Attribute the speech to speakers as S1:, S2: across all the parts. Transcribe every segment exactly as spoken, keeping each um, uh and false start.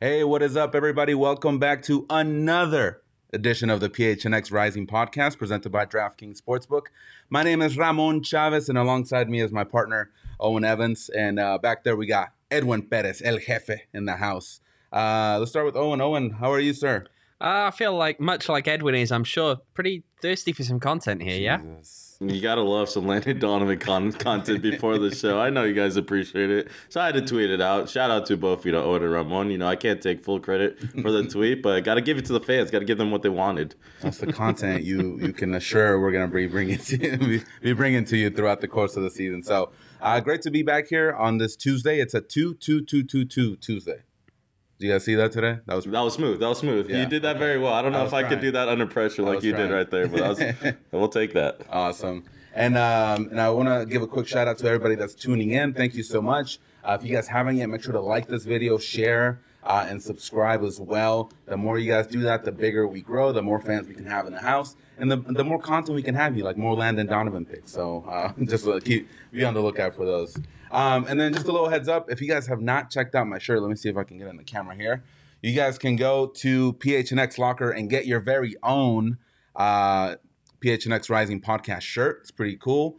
S1: Hey, what is up, everybody? Welcome back to another edition of the P H N X Rising podcast presented by DraftKings Sportsbook. My name is Ramon Chavez, and alongside me is my partner, Owen Evans. And uh, back there, we got Edwin Perez, El Jefe, in the house. Uh, let's start with Owen. Owen, how are you, sir?
S2: Uh, I feel like, much like Edwin is, I'm sure, pretty thirsty for some content here, yeah?
S1: Jesus.
S3: You gotta love some Landon Donovan con- content before the show. I know you guys appreciate it, so I had to tweet it out. Shout out to both, you know, Owen and Ramon. You know, I can't take full credit for the tweet, but gotta give it to the fans. Gotta give them what they wanted.
S1: That's the content you you can assure we're gonna be bringing to you, be bringing to you throughout the course of the season. So, uh, great to be back here on this Tuesday. It's a two two two two two Tuesday. Did you guys see that today? That was
S3: That was smooth. That was smooth.
S1: Yeah,
S3: you did that
S1: okay.
S3: very well. I don't know
S1: I
S3: if
S1: was
S3: I
S1: trying.
S3: could do that under pressure
S1: I
S3: like
S1: was
S3: you
S1: trying.
S3: did right there, but I was, we'll take that.
S1: Awesome. And um, and I want to give a quick shout out to everybody that's tuning in. Thank you so much. Uh, if you guys haven't yet, make sure to like this video, share, uh, and subscribe as well. The more you guys do that, the bigger we grow, the more fans we can have in the house, and the the more content we can have you, like more Landon Donovan picks. So uh, just uh, keep be on the lookout for those. Um, and then just a little heads up, if you guys have not checked out my shirt, let me see if I can get in the camera here. You guys can go to P H N X Locker and get your very own uh, P H N X Rising podcast shirt. It's pretty cool.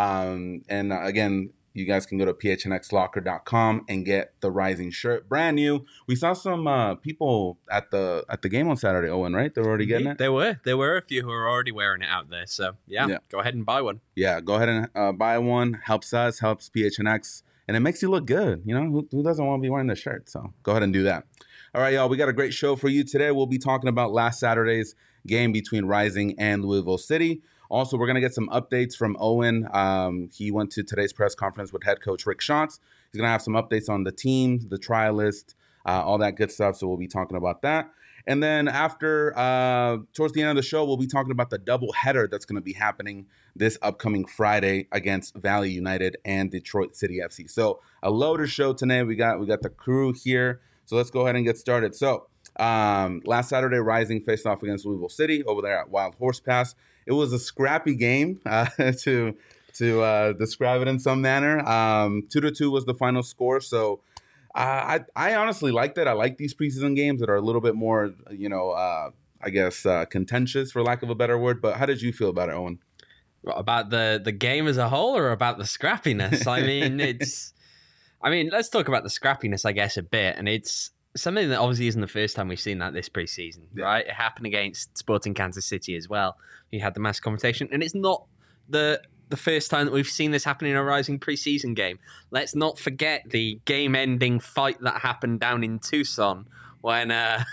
S1: Um, and uh, again, you guys can go to P H N X locker dot com and get the Rising shirt, brand new. We saw some uh, people at the at the game on Saturday, Owen, right? They're already getting it?
S2: There were. There were a few who were already wearing it out there. So, yeah,
S1: Yeah.
S2: go ahead and buy one.
S1: Yeah, go ahead and uh, buy one. Helps us, helps P H N X, and it makes you look good. You know, who, who doesn't want to be wearing the shirt? So go ahead and do that. All right, y'all, we got a great show for you today. We'll be talking about last Saturday's game between Rising and Louisville City. Also, we're going to get some updates from Owen. Um, he went to today's press conference with head coach Rick Schatz. He's going to have some updates on the team, the trial list, uh, all that good stuff. So we'll be talking about that. And then after, uh, towards the end of the show, we'll be talking about the doubleheader that's going to be happening this upcoming Friday against Valley United and Detroit City F C. So a loaded show today. We got we got the crew here. So let's go ahead and get started. So um, last Saturday, Rising faced off against Louisville City over there at Wild Horse Pass. It was a scrappy game uh, to to uh, describe it in some manner. Um, two to two was the final score. So uh, I I honestly liked it. I like these preseason games that are a little bit more, you know, uh, I guess uh, contentious, for lack of a better word. But how did you feel about it, Owen?
S2: About the, the game as a whole or about the scrappiness? I mean, it's... I mean, let's talk about the scrappiness, I guess, a bit. And it's something that obviously isn't the first time we've seen that this preseason,
S1: Yeah.
S2: right? It happened against Sporting Kansas City as well. You had the mass confrontation. And it's not the the first time that we've seen this happen in a Rising preseason game. Let's not forget the game-ending fight that happened down in Tucson when... Uh,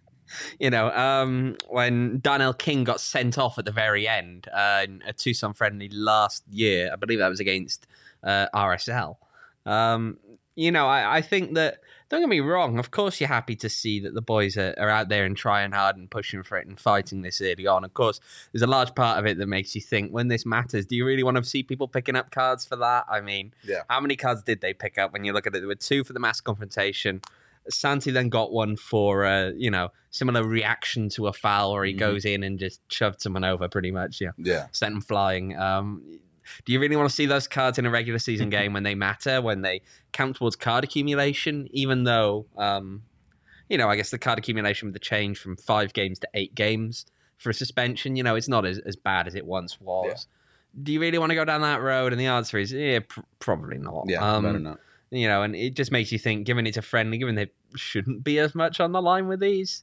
S2: You know, um, when Darnell King got sent off at the very end uh, in a Tucson friendly last year, I believe that was against uh, R S L. Um, you know, I, I think that, don't get me wrong, of course you're happy to see that the boys are, are out there and trying hard and pushing for it and fighting this early on. Of course, there's a large part of it that makes you think, when this matters, do you really want to see people picking up cards for that? I mean,
S1: Yeah.
S2: how many cards did they pick up when you look at it? There were two for the mass confrontation. Santi then got one for, uh, you know, similar reaction to a foul where he
S1: Mhm.
S2: goes in and just shoved someone over pretty much, yeah.
S1: Yeah.
S2: Sent him flying. Um, do you really want to see those cards in a regular season game when they matter, when they count towards card accumulation, even though, um, you know, I guess the card accumulation with the change from five games to eight games for a suspension, you know, it's not as, as bad as it once was. Yeah. Do you really want to go down that road? And the answer is, yeah, pr- probably not.
S1: Yeah,
S2: um,
S1: better not.
S2: You know, and it just makes you think, given it's a friendly, given there shouldn't be as much on the line with these.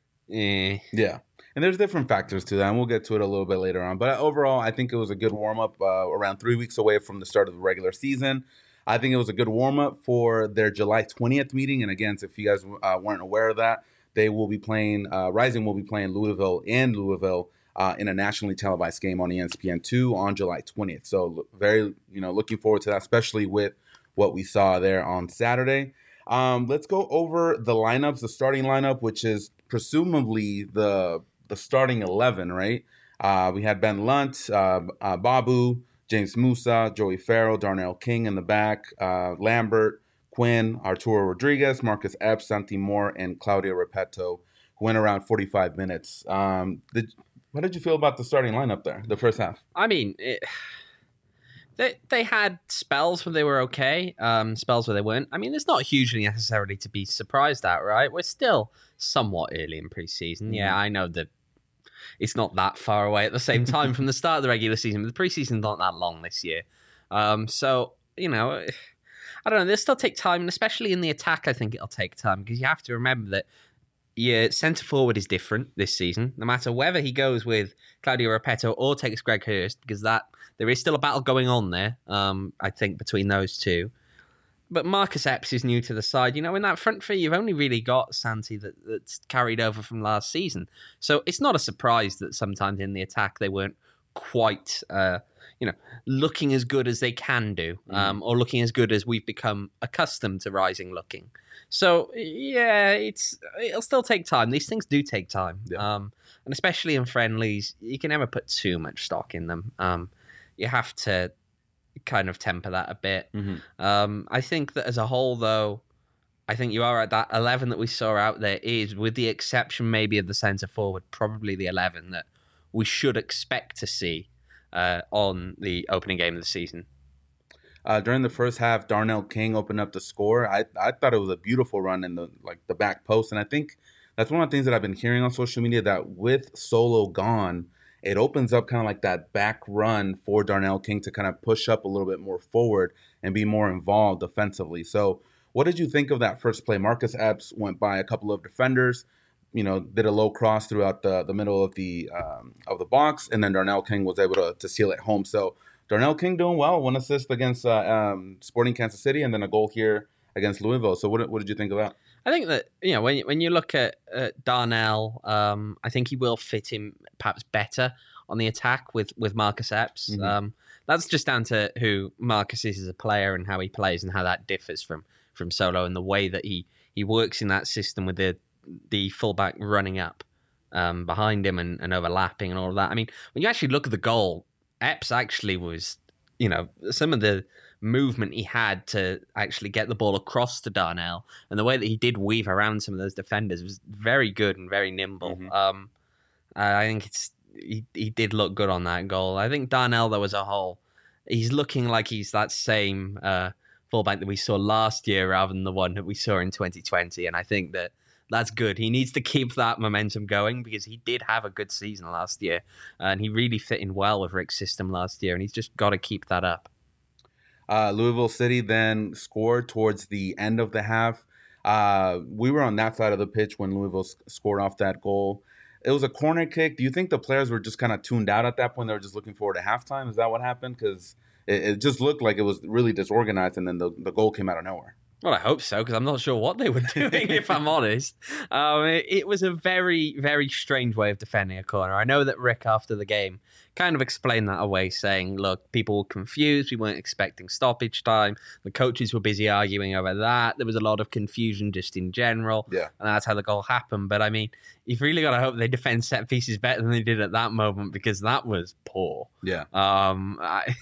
S2: Eh.
S1: Yeah. And there's different factors to that, and we'll get to it a little bit later on. But overall, I think it was a good warm-up uh, around three weeks away from the start of the regular season. I think it was a good warm-up for their July twentieth meeting. And again, if you guys uh, weren't aware of that, they will be playing, uh, Rising will be playing Louisville in Louisville uh, in a nationally televised game on E S P N two on July twentieth. So very, you know, looking forward to that, especially with what we saw there on Saturday. Um, let's go over the lineups, the starting lineup, which is presumably the the starting eleven, right? Uh, we had Ben Lunt, uh, uh, Babu, James Musa, Joey Farrell, Darnell King in the back, uh, Lambert, Quinn, Arturo Rodriguez, Marcus Epps, Santi Moore, and Claudio Repetto, who went around forty-five minutes. Um, did, what did you feel about the starting lineup there, the first half?
S2: I mean, it, they they had spells where they were okay, um, spells where they weren't. I mean, there's not hugely necessarily to be surprised at, right? We're still somewhat early in preseason. Mm. Yeah, I know that it's not that far away at the same time from the start of the regular season, but the preseason's not that long this year. Um, so, you know, I don't know. They'll still take time, and especially in the attack, I think it'll take time because you have to remember that your centre forward is different this season, no matter whether he goes with Claudio Repetto or takes Greg Hurst, because that there is still a battle going on there, um, I think, between those two. But Marcus Epps is new to the side. You know, in that front three, you've only really got Santi that, that's carried over from last season. So it's not a surprise that sometimes in the attack they weren't quite, uh, you know, looking as good as they can do, um, mm. or looking as good as we've become accustomed to Rising looking. So, yeah, it's it'll still take time. These things do take time. Yeah. Um, and especially in friendlies, you can never put too much stock in them. Um, you have to kind of temper that a bit. Mm-hmm. Um, I think that as a whole, though, I think you are at that eleven that we saw out there is, with the exception maybe of the centre forward, probably the eleven that we should expect to see uh, on the opening game of the season.
S1: Uh, during the first half, Darnell King opened up the score. I I thought it was a beautiful run in the like the back post, and I think that's one of the things that I've been hearing on social media, that with Solo gone, it opens up kind of like that back run for Darnell King to kind of push up a little bit more forward and be more involved defensively. So what did you think of that first play? Marcus Epps went by a couple of defenders, you know, did a low cross throughout the, the middle of the um, of the box, and then Darnell King was able to, to seal it home. So Darnell King doing well, one assist against uh, um, Sporting Kansas City, and then a goal here against Louisville. So what, what did you think of that?
S2: I think that, you know, when you, when you look at uh, Darnell, um, I think he will fit him perhaps better on the attack with, with Marcus Epps. Mm-hmm. Um, that's just down to who Marcus is as a player and how he plays and how that differs from from Solo, and the way that he, he works in that system with the the fullback running up um, behind him and, and overlapping and all of that. I mean, when you actually look at the goal, Epps actually was, you know, some of the movement he had to actually get the ball across to Darnell, and the way that he did weave around some of those defenders was very good and very nimble. Mm-hmm. Um, I think it's he, he did look good on that goal. I think Darnell, though, as a whole, he's looking like he's that same uh, fullback that we saw last year rather than the one that we saw in twenty twenty, and I think that that's good. He needs to keep that momentum going because he did have a good season last year, and he really fit in well with Rick's system last year, and he's just got to keep that up.
S1: Uh, Louisville City then scored towards the end of the half. Uh, we were on that side of the pitch when Louisville sc- scored off that goal. It was a corner kick. Do you think the players were just kind of tuned out at that point? They were just looking forward to halftime? Is that what happened? Because it, it just looked like it was really disorganized, and then the, the goal came out of nowhere.
S2: Well, I hope so, because I'm not sure what they were doing, if I'm honest. Um, it, it was a very, very strange way of defending a corner. I know that Rick, after the game, kind of explained that away, saying, look, people were confused. We weren't expecting stoppage time. The coaches were busy arguing over that. There was a lot of confusion just in general.
S1: Yeah.
S2: And that's how the goal happened. But, I mean, you've really got to hope they defend set pieces better than they did at that moment, because that was poor.
S1: Yeah.
S2: Um, I...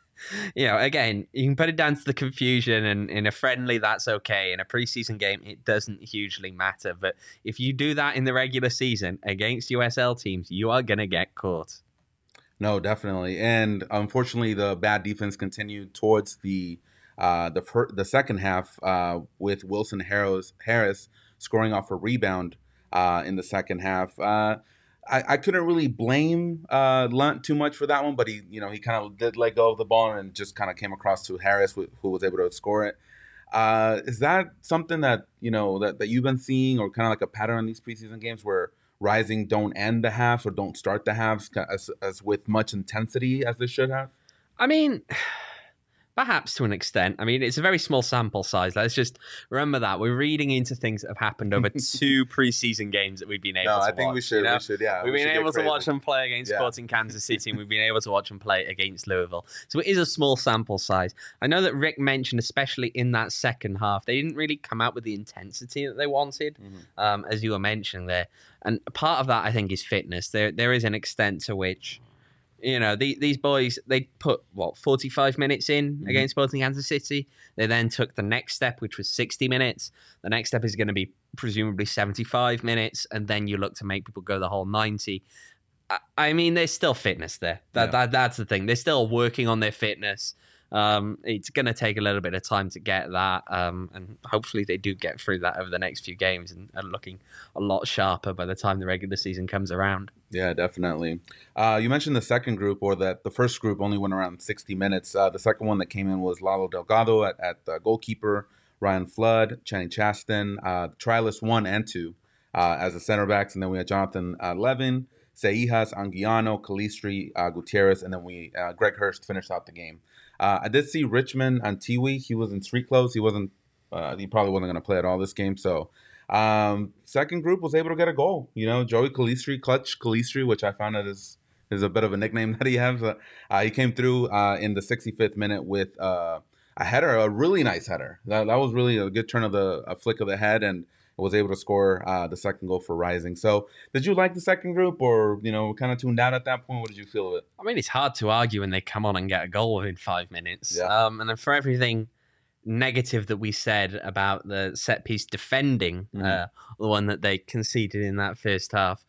S2: You know, again, you can put it down to the confusion, and in a friendly, that's okay. In a preseason game, it doesn't hugely matter. But if you do that in the regular season against U S L teams, you are going to get caught.
S1: No, definitely. And unfortunately, the bad defense continued towards the uh, the fir- the second half uh, with Wilson Harris, Harris scoring off a rebound uh, in the second half. Uh, I, I couldn't really blame uh, Lunt too much for that one, but he, you know, he kind of did let go of the ball and just kind of came across to Harris, who, who was able to score it. Uh, is that something that, you know, that, that you've been seeing, or kind of like a pattern in these preseason games where Rising don't end the halves or don't start the halves as, as with much intensity as they should have?
S2: I mean, perhaps to an extent. I mean, it's a very small sample size. Let's just remember that. We're reading into things that have happened over two preseason games that we've been able
S1: no,
S2: to watch.
S1: I think
S2: watch,
S1: we should,
S2: you know?
S1: we should, yeah.
S2: We've
S1: we
S2: been able to watch them play against
S1: yeah.
S2: Sporting Kansas City, and we've been able to watch them play against Louisville. So it is a small sample size. I know that Rick mentioned, especially in that second half, they didn't really come out with the intensity that they wanted, mm-hmm. um, as you were mentioning there. And part of that, I think, is fitness. There, There is an extent to which... You know, the, these boys, they put, what, forty-five minutes in mm-hmm. against Sporting Kansas City. They then took the next step, which was sixty minutes. The next step is going to be presumably seventy-five minutes. And then you look to make people go the whole ninety. I, I mean, there's still fitness there. That,
S1: Yeah.
S2: that That's the thing. They're still working on their fitness. Um, it's going to take a little bit of time to get that, um, and hopefully they do get through that over the next few games and are looking a lot sharper by the time the regular season comes around.
S1: Yeah, definitely. Uh, you mentioned the second group, or that the first group only went around sixty minutes. Uh, the second one that came in was Lalo Delgado at, at the goalkeeper, Ryan Flood, Channing Chaston, uh, Trialist one and two uh, as the center backs, and then we had Jonathan uh, Levin, Seijas, Anguiano, Calistri, uh, Gutierrez, and then we uh, Greg Hurst finished out the game. Uh, I did see Richmond Antiwi. He was in street clothes. He wasn't. Uh, he probably wasn't going to play at all this game. So, um, second group was able to get a goal. You know, Joey Calistri, Clutch Calistri, which I found out is is a bit of a nickname that he has. Uh, uh, he came through uh, in the sixty-fifth minute with uh, a header, a really nice header. That, that was really a good turn of the a flick of the head, and was able to score uh, the second goal for Rising. So, did you like the second group, or you know, kind of tuned out at that point? What did you feel of it?
S2: I mean, it's hard to argue when they come on and get a goal within five minutes.
S1: Yeah.
S2: Um, and then for everything negative that we said about the set piece defending,
S1: Mhm.
S2: uh, the one that they conceded in that first half,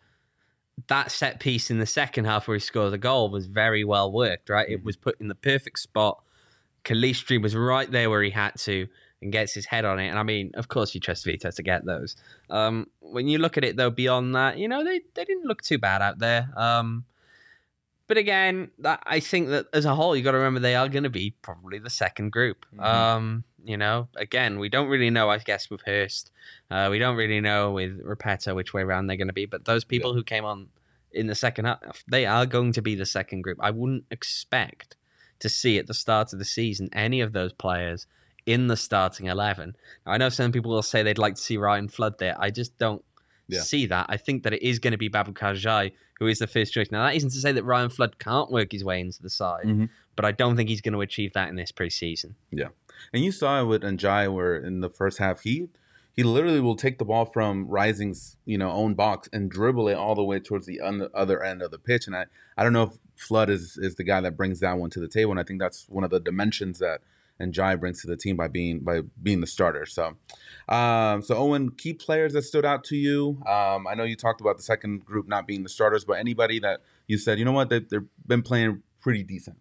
S2: that set piece in the second half where he scored the goal was very well worked, right? It was put in the perfect spot. Calistri was right there where he had to and gets his head on it. And I mean, of course, you trust Vito to get those. Um, when you look at it, though, beyond that, you know, they, they didn't look too bad out there. Um, but again, that, I think that as a whole, you got to remember they are going to be probably the second group.
S1: Mhm.
S2: Um, you know, again, we don't really know, I guess, with Hurst. Uh, we don't really know with Repetto which way around they're going to be. But those people
S1: Yeah.
S2: who came on in the second half, they are going to be the second group. I wouldn't expect to see at the start of the season any of those players in the starting eleven. Now, I know some people will say they'd like to see Ryan Flood there. I just don't
S1: Yeah.
S2: see that. I think that it is going to be Baboucarr Jai who is the first choice. Now, that isn't to say that Ryan Flood can't work his way into the side,
S1: Mhm.
S2: but I don't think he's going to achieve that in this preseason.
S1: And you saw it with Njai, where in the first half he he literally will take the ball from Rising's you know own box and dribble it all the way towards the un- other end of the pitch. And I, I don't know if Flood is is the guy that brings that one to the table. And I think that's one of the dimensions that Njai brings to the team by being by being the starter. So, um, so Owen, key players that stood out to you. Um, I know you talked about the second group not being the starters, but anybody that you said, you know what, they, they've been playing pretty decent.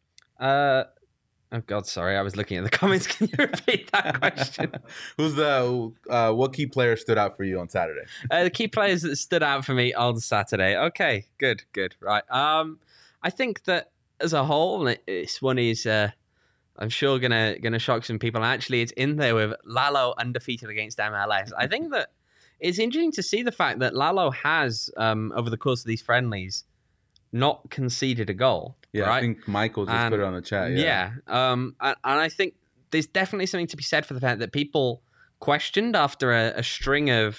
S2: Uh, oh, God, sorry. I was looking at the comments. Can you repeat that question?
S1: Who's the uh, what key player stood out for you on Saturday?
S2: Uh, the key players that stood out for me on Saturday. Okay, good, good, right. Um, I think that as a whole, it- this one is, uh, I'm sure, gonna gonna shock some people. Actually, it's in there with Lalo undefeated against M L S. I think that it's interesting to see the fact that Lalo has, um, over the course of these friendlies, not conceded a goal.
S1: Yeah,
S2: right?
S1: I think Michael just
S2: And-
S1: put it on the chat. Yeah.
S2: Yeah. Um, and, and I think there's definitely something to be said for the fact that people questioned after a, a string of,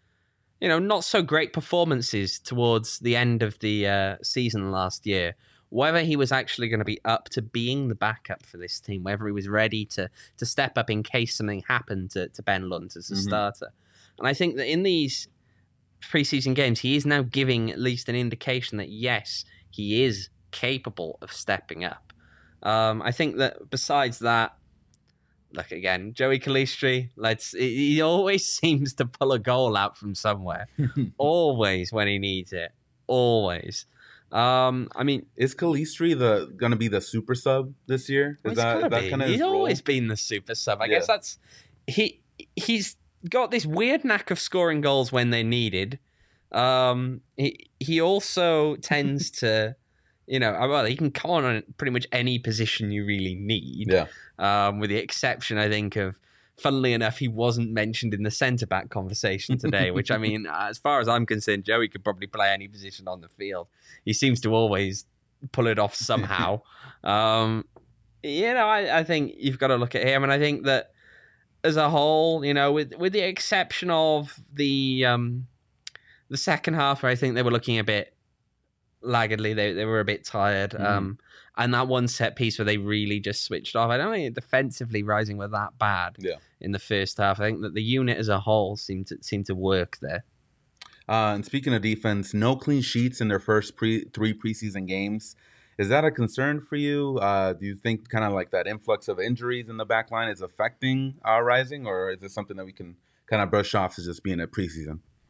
S2: you know, not so great performances towards the end of the uh, season last year, whether he was actually going to be up to being the backup for this team, whether he was ready to to step up in case something happened to, to Ben Lunt as a
S1: Mhm.
S2: starter. And I think that in these preseason games, he is now giving at least an indication that, yes, he is capable of stepping up. Um, I think that besides that, look again, Joey Calistri, let's he he always seems to pull a goal out from somewhere. Always when he needs it. Always. Um, I mean,
S1: Is Calistri the gonna be the super sub this year? Is
S2: it's
S1: that,
S2: gotta
S1: is that
S2: be.
S1: kind of
S2: He's
S1: his role?
S2: always been the super sub. I
S1: Yeah.
S2: guess that's he. He's got this weird knack of scoring goals when they're needed. Um, he he also tends to, you know, well, he can come on on pretty much any position you really need.
S1: Yeah.
S2: Um, with the exception, I think, of, funnily enough, he wasn't mentioned in the centre back conversation today. Which I mean, as far as I'm concerned, Joey could probably play any position on the field. He seems to always pull it off somehow. um, you know, I, I think you've got to look at him, and I think that as a whole, you know, with with the exception of the um, the second half, where I think they were looking a bit laggardly, they they were a bit tired,
S1: Mhm.
S2: um, and that one set piece where they really just switched off. I don't think defensively Rising were that bad
S1: Yeah.
S2: in the first half. I think that the unit as a whole seemed to seemed to work there.
S1: Uh, and speaking of defense, no clean sheets in their first pre three preseason games. Is that a concern for you? Uh, do you think kind of like that influx of injuries in the back line is affecting our Rising, or is it something that we can kind of brush off as just being a preseason?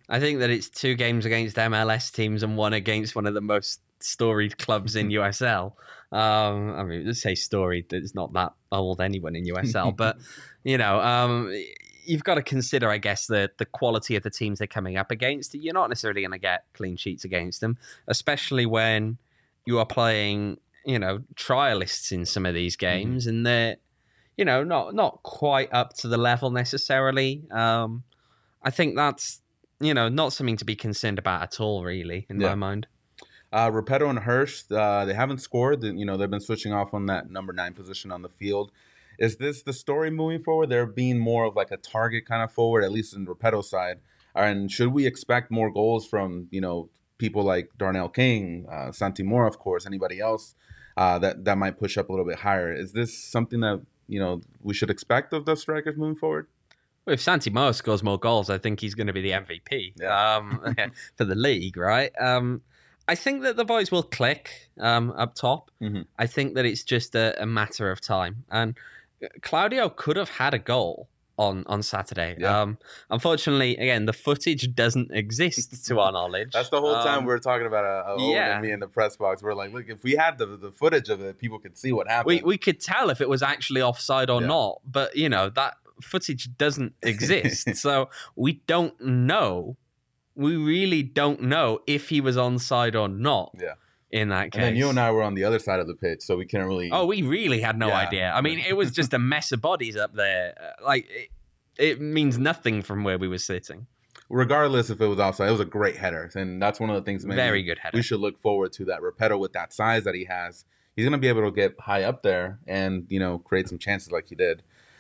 S2: I think that it's two games against M L S teams and one against one of the most storied clubs in U S L. Um, I mean, let's say storied. It's not that old anyone in U S L, but you know, um, you've got to consider, I guess, the the quality of the teams they're coming up against. You're not necessarily going to get clean sheets against them, especially when you are playing, you know, trialists in some of these games, mm-hmm. and they're, you know, not not quite up to the level necessarily. Um, I think that's, you know, not something to be concerned about at all, really, in yeah. my mind.
S1: Uh, Repetto and Hurst, uh, they haven't scored. You know, they've been switching off on that number nine position on the field. Is this the story moving forward? They're being more of like a target kind of forward, at least in Repetto's side. And should we expect more goals from, you know, people like Darnell King, uh, Santi Mora, of course, anybody else uh, that, that might push up a little bit higher? Is this something that, you know, we should expect of the strikers moving forward?
S2: Well, if Santi Mora scores more goals, I think he's going to be the M V P yeah. um, for the league, right? Um, I think that the boys will click um, up top. Mm-hmm. I think that it's just a, a matter of time. And Claudio could have had a goal on, on Saturday. Yeah. Um, unfortunately, again, the footage doesn't exist to our knowledge.
S1: That's the whole time
S2: um,
S1: we were talking about uh, Owen yeah. and me in the press box. We're like, look, if we had the, the footage of it, people could see what happened.
S2: We, we could tell if it was actually offside or yeah. not. But, you know, that footage doesn't exist, so we don't know. We really don't know if he was onside or not. Yeah. In that case,
S1: and then you and I were on the other side of the pitch, so we can't really.
S2: Oh, we really had no yeah. idea. I mean, it was just a mess of bodies up there. Like it, it means nothing from where we were sitting.
S1: Regardless if it was offside, it was a great header, and that's one of the things. Maybe
S2: Very good header.
S1: We should look forward to that. Repetto with that size that he has, he's going to be able to get high up there and, you know, create some chances like he did.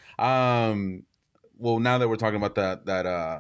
S1: Um, well, now that we're talking about that that uh,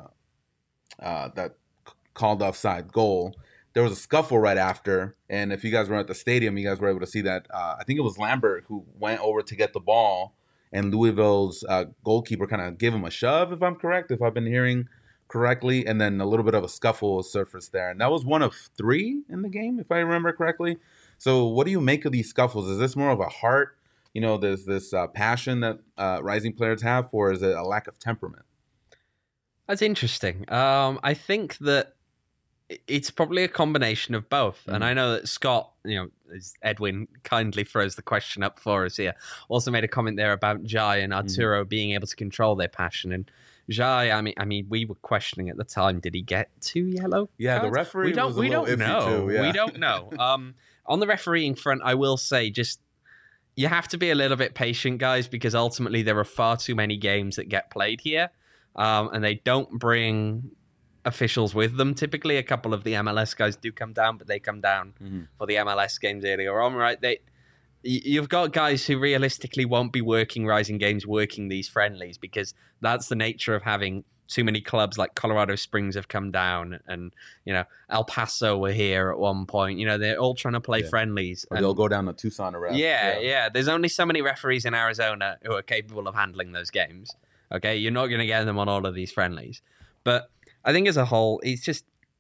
S1: uh, that called offside goal, there was a scuffle right after, and if you guys were at the stadium, you guys were able to see that. Uh, I think it was Lambert who went over to get the ball, and Louisville's uh, goalkeeper kind of gave him a shove, if I'm correct, if I've been hearing correctly, and then a little bit of a scuffle surfaced there, and that was one of three in the game, if I remember correctly. So, what do you make of these scuffles? Is this more of a heart? You know, there's this uh, passion that uh, rising players have, or is it a lack of temperament?
S2: That's interesting. Um, I think that it's probably a combination of both. Mm. And I know that Scott, you know, as Edwin kindly throws the question up for us here, also made a comment there about Jai and Arturo mm. being able to control their passion. And Jai, I mean, I mean, we were questioning at the time, did he get two yellow
S1: Yeah,
S2: cards?
S1: the referee
S2: we don't,
S1: was a
S2: we
S1: little
S2: don't
S1: iffy
S2: know.
S1: too. Yeah.
S2: We don't know. Um, on the refereeing front, I will say just, you have to be a little bit patient, guys, because ultimately there are far too many games that get played here, um, and they don't bring officials with them. Typically, a couple of the M L S guys do come down, but they come down mm-hmm. for the M L S games earlier on, right? They, you've got guys who realistically won't be working Rising Games, working these friendlies, because that's the nature of having too many clubs like Colorado Springs have come down, and, you know, El Paso were here at one point. You know, they're all trying to play yeah. friendlies.
S1: Or they'll go down to Tucson or
S2: yeah, yeah, yeah. There's only so many referees in Arizona who are capable of handling those games. Okay, you're not going to get them on all of these friendlies. But I think as a whole, it's just,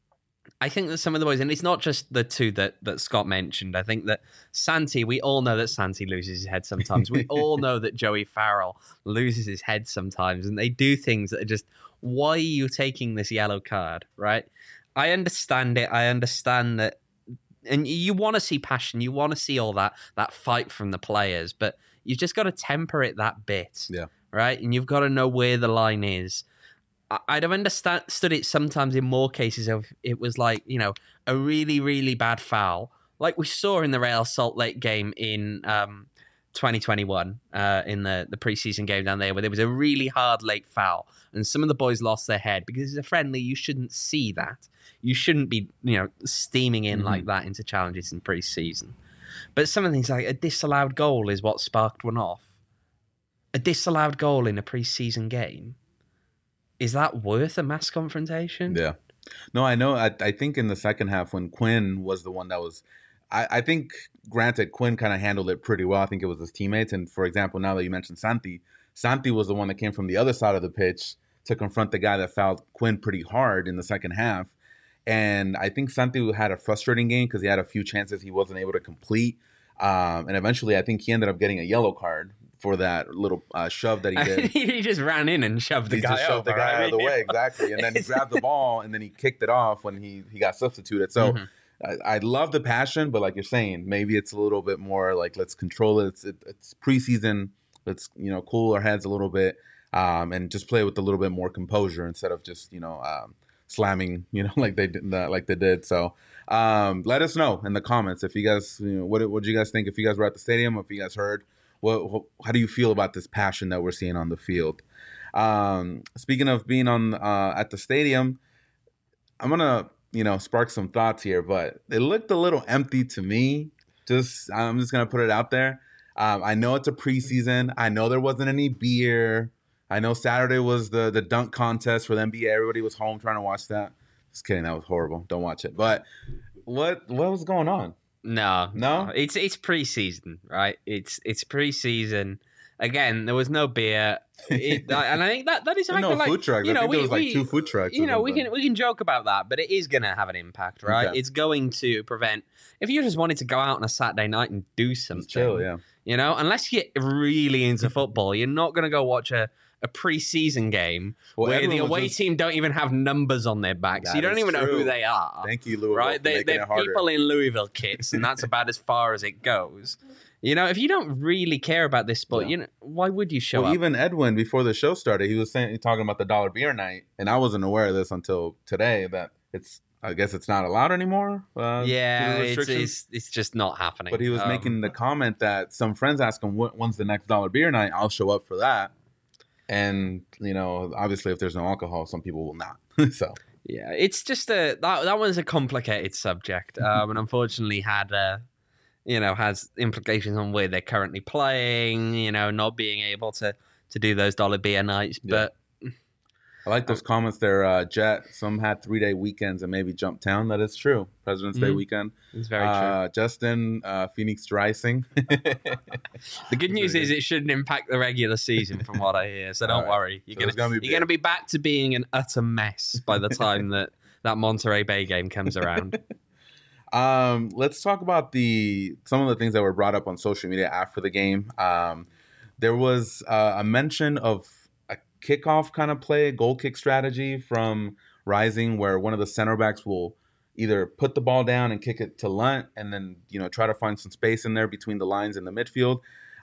S2: I think that some of the boys, and it's not just the two that, that Scott mentioned. I think that Santi, we all know that Santi loses his head sometimes. We all know that Joey Farrell loses his head sometimes, and they do things that are just, why are you taking this yellow card, right? I understand it. I understand that, and you want to see passion. You want to see all that, that fight from the players, but you've just got to temper it that bit,
S1: yeah,
S2: right? And you've got to know where the line is. I'd have understood it sometimes in more cases if it was like, you know, a really, really bad foul, like we saw in the Real Salt Lake game in um, twenty twenty-one, uh, in the, the preseason game down there, where there was a really hard late foul, and some of the boys lost their head because it's a friendly. You shouldn't see that. You shouldn't be, you know, steaming in mm-hmm. like that into challenges in preseason. But some of the things like a disallowed goal is what sparked one off. A disallowed goal in a preseason game. Is that worth a mass confrontation?
S1: Yeah. No, I know. I, I think in the second half when Quinn was the one that was, I, I think, granted, Quinn kind of handled it pretty well. I think it was his teammates. And for example, now that you mentioned Santi, Santi was the one that came from the other side of the pitch to confront the guy that fouled Quinn pretty hard in the second half. And I think Santi had a frustrating game because he had a few chances he wasn't able to complete. Um, and eventually, I think he ended up getting a yellow card for that little uh, shove that he did.
S2: he just ran in and shoved the
S1: he
S2: guy
S1: just shoved
S2: over,
S1: the guy
S2: I
S1: out of the
S2: mean,
S1: way, exactly. And then he grabbed the ball and then he kicked it off when he, he got substituted. So
S2: Mhm.
S1: I, I love the passion, but like you're saying, maybe it's a little bit more like let's control it. It's, it, it's preseason. Let's you know cool our heads a little bit um, and just play with a little bit more composure instead of just you know um, slamming you know like they did like they did. So um, let us know in the comments if you guys you know what what do you guys think if you guys were at the stadium, if you guys heard. What, what, how do you feel about this passion that we're seeing on the field? Um, speaking of being on uh, at the stadium, I'm gonna you know spark some thoughts here, but it looked a little empty to me. Just I'm just gonna put it out there. Um, I know it's a preseason. I know there wasn't any beer. I know Saturday was the the dunk contest for the N B A. Everybody was home trying to watch that. Just kidding, that was horrible. Don't watch it. But what what was going on?
S2: No,
S1: No?
S2: It's it's preseason, right? It's it's preseason. Again, there was no beer, it, and I think that that is a
S1: There's no
S2: factor, like,
S1: food trucks.
S2: you know,
S1: I think
S2: we,
S1: there was like
S2: we,
S1: two food trucks.
S2: You
S1: or
S2: know, we
S1: something.
S2: can we can joke about that, but it is going to have an impact, right?
S1: Okay.
S2: It's going to prevent if you just wanted to go out on a Saturday night and do something.
S1: Just chill, yeah.
S2: You know, unless you're really into football, you're not going to go watch a, a preseason game
S1: Well,
S2: where the
S1: everyone was
S2: away
S1: just-
S2: team don't even have numbers on their backs.
S1: That
S2: You don't
S1: is
S2: even know
S1: true.
S2: who they are.
S1: Thank you, Louisville,
S2: Right?
S1: for
S2: They,
S1: making
S2: they're
S1: it harder.
S2: people in Louisville kits, and that's about as far as it goes. You know, if you don't really care about this sport,
S1: Yeah.
S2: you know, why would you show
S1: Well,
S2: up?
S1: even Edwin, before the show started, he was saying talking about the dollar beer night, and I wasn't aware of this until today. That it's, I guess, it's not allowed anymore. Uh, due to
S2: yeah, it's,
S1: restrictions.
S2: it's it's just not happening.
S1: But he was
S2: Um,
S1: making the comment that some friends asked him, "What- "When's the next dollar beer night?" I'll show up for that. And you know, obviously, if there's no alcohol, some people will not. So
S2: Yeah, it's just a that that one's a complicated subject, um, and unfortunately had uh, you know has implications on where they're currently playing. You know, not being able to to do those dollar beer nights,
S1: Yeah.
S2: but.
S1: I like those comments there, uh, Jet. Some had three day weekends and maybe jump town. That is true. President's Day
S2: Mhm.
S1: weekend.
S2: It's very true.
S1: Uh, Justin, uh, Phoenix Rising.
S2: The good news is it shouldn't impact the regular season, from what I hear. So don't
S1: All right.
S2: worry. You're
S1: So
S2: gonna,
S1: it's gonna be
S2: you're gonna
S1: big.
S2: be back to being an utter mess by the time that that Monterey Bay game comes around.
S1: Um, let's talk about the some of the things that were brought up on social media after the game. Um, there was uh, a mention of a kickoff kind of play, goal kick strategy from Rising, where one of the center backs will either put the ball down and kick it to Lunt, and then you know try to find some space in there between the lines in the midfield.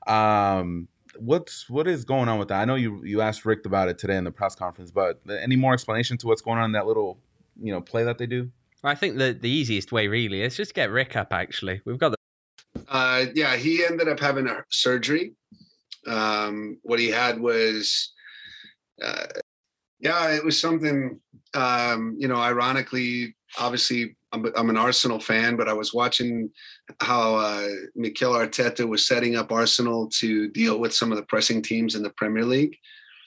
S1: Um, what's what is going on with that? I know you you asked Rick about it today in the press conference, but any more explanation to what's going on in that little you know play that they do?
S2: I think the the easiest way really is just get Rick up. Actually, we've got the
S4: Uh, yeah, he ended up having a surgery. Um, what he had was, uh, yeah, it was something, um, you know, ironically, obviously, I'm, I'm an Arsenal fan, but I was watching how uh, Mikel Arteta was setting up Arsenal to deal with some of the pressing teams in the Premier League.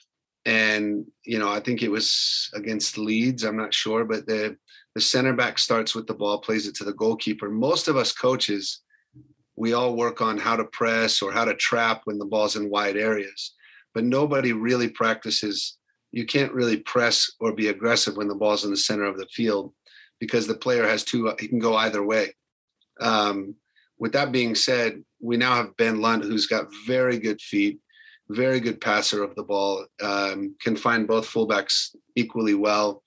S4: And, you know, I think it was against Leeds, I'm not sure, but the, the center back starts with the ball, plays it to the goalkeeper. Most of us coaches, we all work on how to press or how to trap when the ball's in wide areas, but nobody really practices. You can't really press or be aggressive when the ball's in the center of the field because the player has two, he can go either way. Um, with that being said, we now have Ben Lunt, who's got very good feet, very good passer of the ball, um, can find both fullbacks equally well.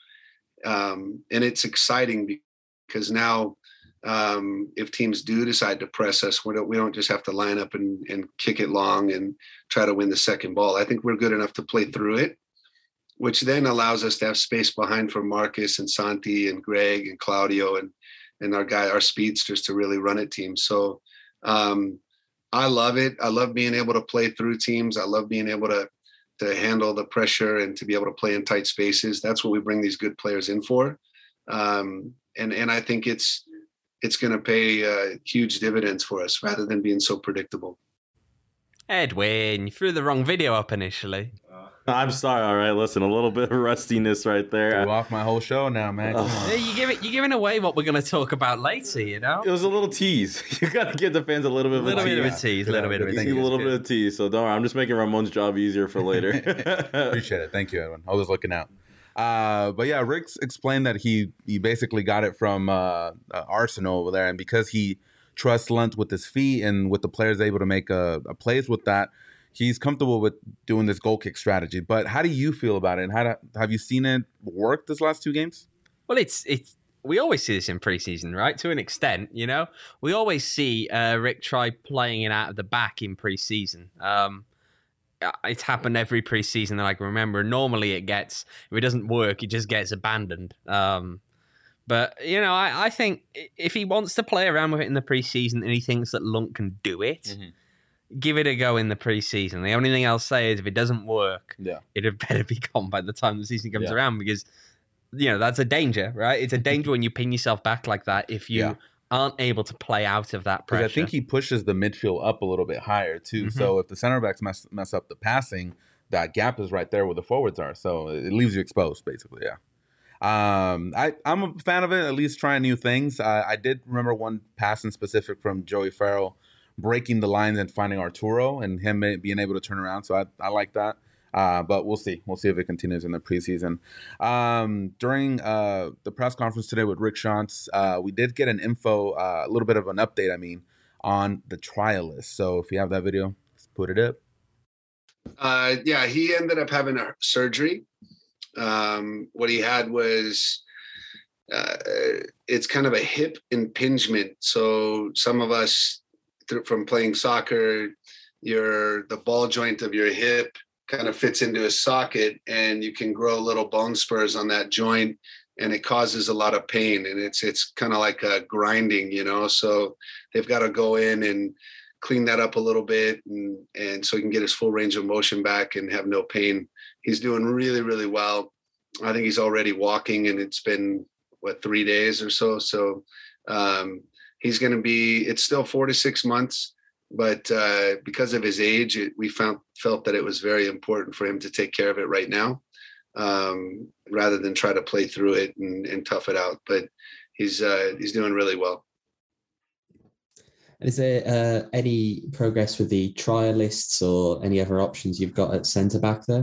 S4: Um, and it's exciting because now um, if teams do decide to press us, we don't, we don't just have to line up and, and kick it long and try to win the second ball. I think we're good enough to play through it, which then allows us to have space behind for Marcus and Santi and Greg and Claudio and, and our guy, our speedsters to really run at teams. So um, I love it. I love being able to play through teams. I love being able to, to handle the pressure and to be able to play in tight spaces. That's what we bring these good players in for. Um, and, and I think it's, it's going to pay uh, huge dividends for us rather than being so predictable.
S2: Edwin, you threw the wrong video up initially.
S3: I'm sorry. All right, listen, a little bit of rustiness right there.
S1: Threw off my whole show now, man. Come on.
S2: Yeah, you give it. You're giving away what we're going to talk about later. You know,
S3: It was a little tease. You got to give the fans a little bit
S2: a
S3: of
S2: little
S3: a
S2: bit of a
S3: tease.
S2: tease, a
S1: Good
S2: little
S1: on,
S2: bit of a
S1: good.
S3: A
S1: Thank you.
S3: little bit of tease. So don't worry. I'm just making Ramon's job easier for later.
S1: Appreciate it. Thank you, Edwin. I was looking out. Uh, but yeah, Rick's explained that he he basically got it from uh, uh, Arsenal over there, and because he trusts Lunt with his feet and with the players able to make a, a plays with that, he's comfortable with doing this goal kick strategy. But how do you feel about it? And how do, have you seen it work this last two games?
S2: Well, it's it's we always see this in preseason, right? To an extent, you know, we always see uh, Rick try playing it out of the back in preseason. Um, it's happened every preseason that I can remember. Normally, it gets if it doesn't work, it just gets abandoned. Um, but you know, I, I think if he wants to play around with it in the preseason and he thinks that Lund can do it. Mm-hmm. Give it a go in the preseason. The only thing I'll say is if it doesn't work,
S1: yeah.
S2: it had better be gone by the time the season comes
S1: yeah.
S2: around, because you know that's a danger, right? It's a danger when you pin yourself back like that if you yeah. aren't able to play out of that pressure.
S1: I think he pushes the midfield up a little bit higher too. Mm-hmm. So if the center backs mess mess up the passing, that gap is right there where the forwards are. So it leaves you exposed, basically. Yeah. Um, I I'm a fan of it. At least trying new things. Uh, I did remember one pass in specific from Joey Farrell, breaking the lines and finding Arturo and him being able to turn around. So I, I like that. Uh, but we'll see. We'll see if it continues in the preseason. Um, during uh, the press conference today with Rick Schantz, uh, we did get an info, uh, a little bit of an update, I mean, on the trial list. So if you have that video, let's put it up.
S4: Uh, yeah, he ended up having a surgery. Um, what he had was... Uh, it's kind of a hip impingement. So some of us... from playing soccer, your the ball joint of your hip kind of fits into a socket, and you can grow little bone spurs on that joint, and it causes a lot of pain. And it's it's kind of like a grinding, you know. So they've got to go in and clean that up a little bit, and and so he can get his full range of motion back and have no pain. He's doing really really well. I think he's already walking, and it's been what three days or so. So. Um, He's going to be, it's still four to six months, but uh, because of his age, it, we found felt that it was very important for him to take care of it right now, um, rather than try to play through it and, and tough it out. But he's uh, he's doing really well.
S5: Is there uh, any progress with the trialists or any other options you've got at centre back there?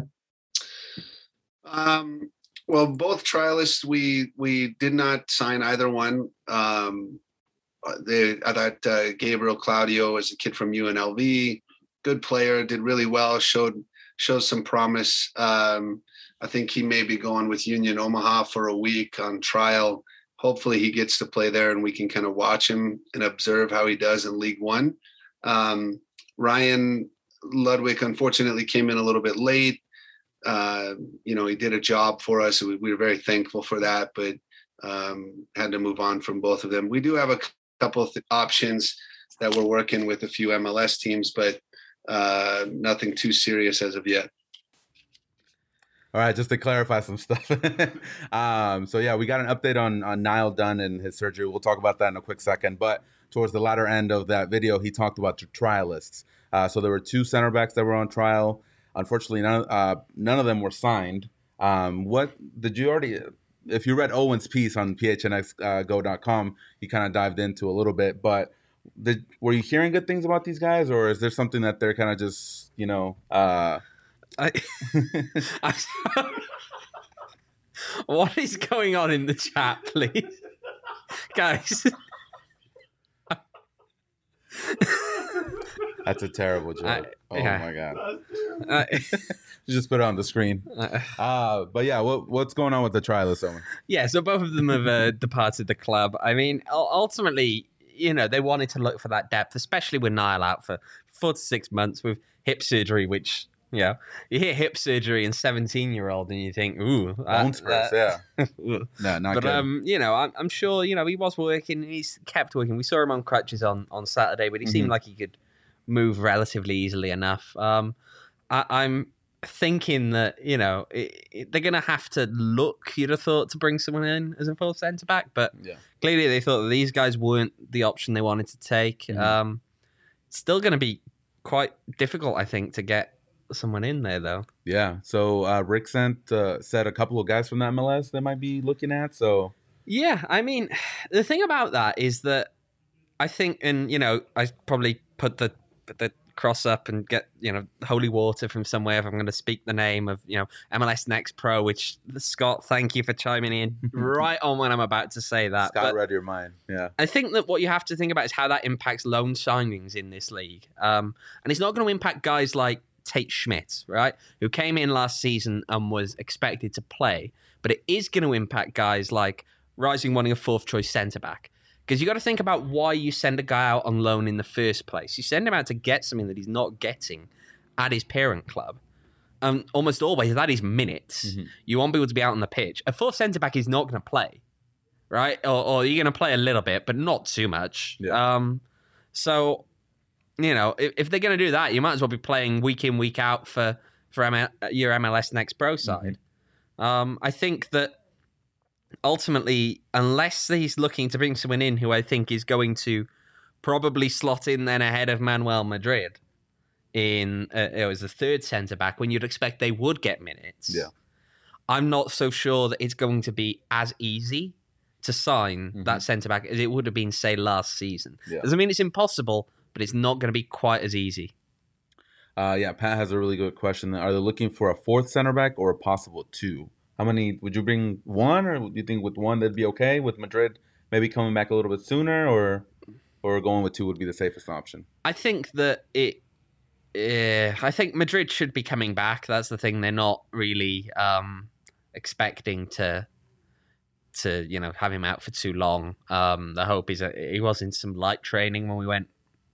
S4: Um, well, both trialists, we we did not sign either one. Um, They, I thought uh, Gabriel Claudio is a kid from U N L V, good player, did really well, showed shows some promise. Um, I think he may be going with Union Omaha for a week on trial. Hopefully he gets to play there and we can kind of watch him and observe how he does in League One. Um, Ryan Ludwig unfortunately came in a little bit late. Uh, you know, he did a job for us. We, we were very thankful for that, but um, had to move on from both of them. We do have a couple of th- options that we're working with a few M L S teams, but uh, nothing too serious as of yet.
S1: All right, just to clarify some stuff. um, so, yeah, we got an update on, on Niall Dunn and his surgery. We'll talk about that in a quick second. But towards the latter end of that video, he talked about the trialists. Uh, so there were two center backs that were on trial. Unfortunately, none, uh, none of them were signed. Um, what did you already... If you read Owen's piece on P H N X go dot com, he kind of dived into a little bit. But did, were you hearing good things about these guys, or is there something that they're kind of just, you know? Uh...
S2: I, I, what is going on in the chat, please, guys?
S1: That's a terrible joke. I, oh yeah. my god!
S2: Uh,
S1: You just put it on the screen. Uh, but yeah, what what's going on with the trialists, Owen?
S2: Yeah, so both of them have uh, departed the club. I mean, ultimately, you know, they wanted to look for that depth, especially with Niall out for four to six months with hip surgery, which, you know, you hear hip surgery in seventeen-year-old and you think, ooh.
S1: Bone spurs, yeah. No, not
S2: but,
S1: good.
S2: um, you know, I'm, I'm sure, you know, he was working. He's kept working. We saw him on crutches on, on Saturday, but he mm-hmm. seemed like he could move relatively easily enough. Um, I, I'm thinking that, you know, it, it, they're going to have to look, you'd have thought, to bring someone in as a full centre-back, but
S1: yeah.
S2: clearly they thought that these guys weren't the option they wanted to take. Mm-hmm. Um, it's still going to be quite difficult, I think, to get someone in there, though.
S1: Yeah, so uh, Rick sent, uh, said a couple of guys from the M L S they might be looking at, so...
S2: Yeah, I mean, the thing about that is that I think, and, you know, I probably put the the cross up and get, you know, holy water from somewhere if I'm going to speak the name of, you know, M L S Next Pro, which, Scott, thank you for chiming in right on when I'm about to say that.
S1: Scott but read your mind, yeah.
S2: I think that what you have to think about is how that impacts loan signings in this league. Um, and it's not going to impact guys like Tate Schmidt, right, who came in last season and was expected to play, but it is going to impact guys like Rising wanting a fourth choice centre back. Because you got to think about why you send a guy out on loan in the first place. You send him out to get something that he's not getting at his parent club. Um, almost always that is minutes. Mm-hmm. You want people to be out on the pitch. A fourth centre back is not going to play, right? Or, or you're going to play a little bit, but not too much. Yeah. Um, so, you know, if, if they're going to do that, you might as well be playing week in, week out for for M L, your M L S Next Pro side. Mm-hmm. Um, I think that. Ultimately, unless he's looking to bring someone in who I think is going to probably slot in then ahead of Manuel Madrid in uh, it was the third centre back when you'd expect they would get minutes.
S1: Yeah,
S2: I'm not so sure that it's going to be as easy to sign mm-hmm. that centre back as it would have been, say, last season.
S1: Yeah.
S2: Doesn't mean it's impossible, but it's not going to be quite as easy.
S1: Uh, yeah, Pat has a really good question. Are they looking for a fourth centre back or a possible two? How many would you bring? One, or do you think with one that'd be okay? With Madrid maybe coming back a little bit sooner, or or going with two would be the safest option?
S2: I think that it. Uh, I think Madrid should be coming back. That's the thing. They're not really um, expecting to to you know have him out for too long. Um, the hope is that he was in some light training when we went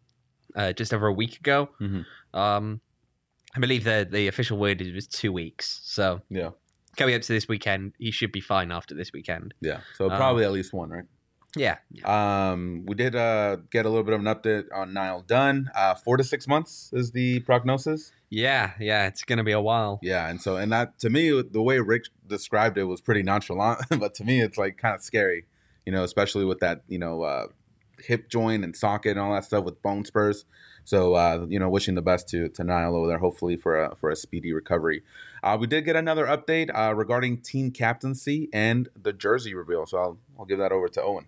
S2: uh, just over a week ago.
S1: Mm-hmm.
S2: Um, I believe the the official word is was two weeks. So
S1: yeah.
S2: Coming up to this weekend, he should be fine after this weekend.
S1: Yeah, so probably um, at least one, right?
S2: Yeah. yeah.
S1: Um, we did uh, get a little bit of an update on Niall Dunn. Uh, four to six months is the prognosis.
S2: Yeah, yeah, it's going to be a while.
S1: Yeah, and so and that to me, the way Rick described it was pretty nonchalant, but to me, it's like kind of scary, you know, especially with that, you know, uh, hip joint and socket and all that stuff with bone spurs. So, uh, you know, wishing the best to to Niall over there, hopefully for a, for a speedy recovery. Uh, we did get another update uh, regarding team captaincy and the jersey reveal. So I'll I'll give that over to Owen.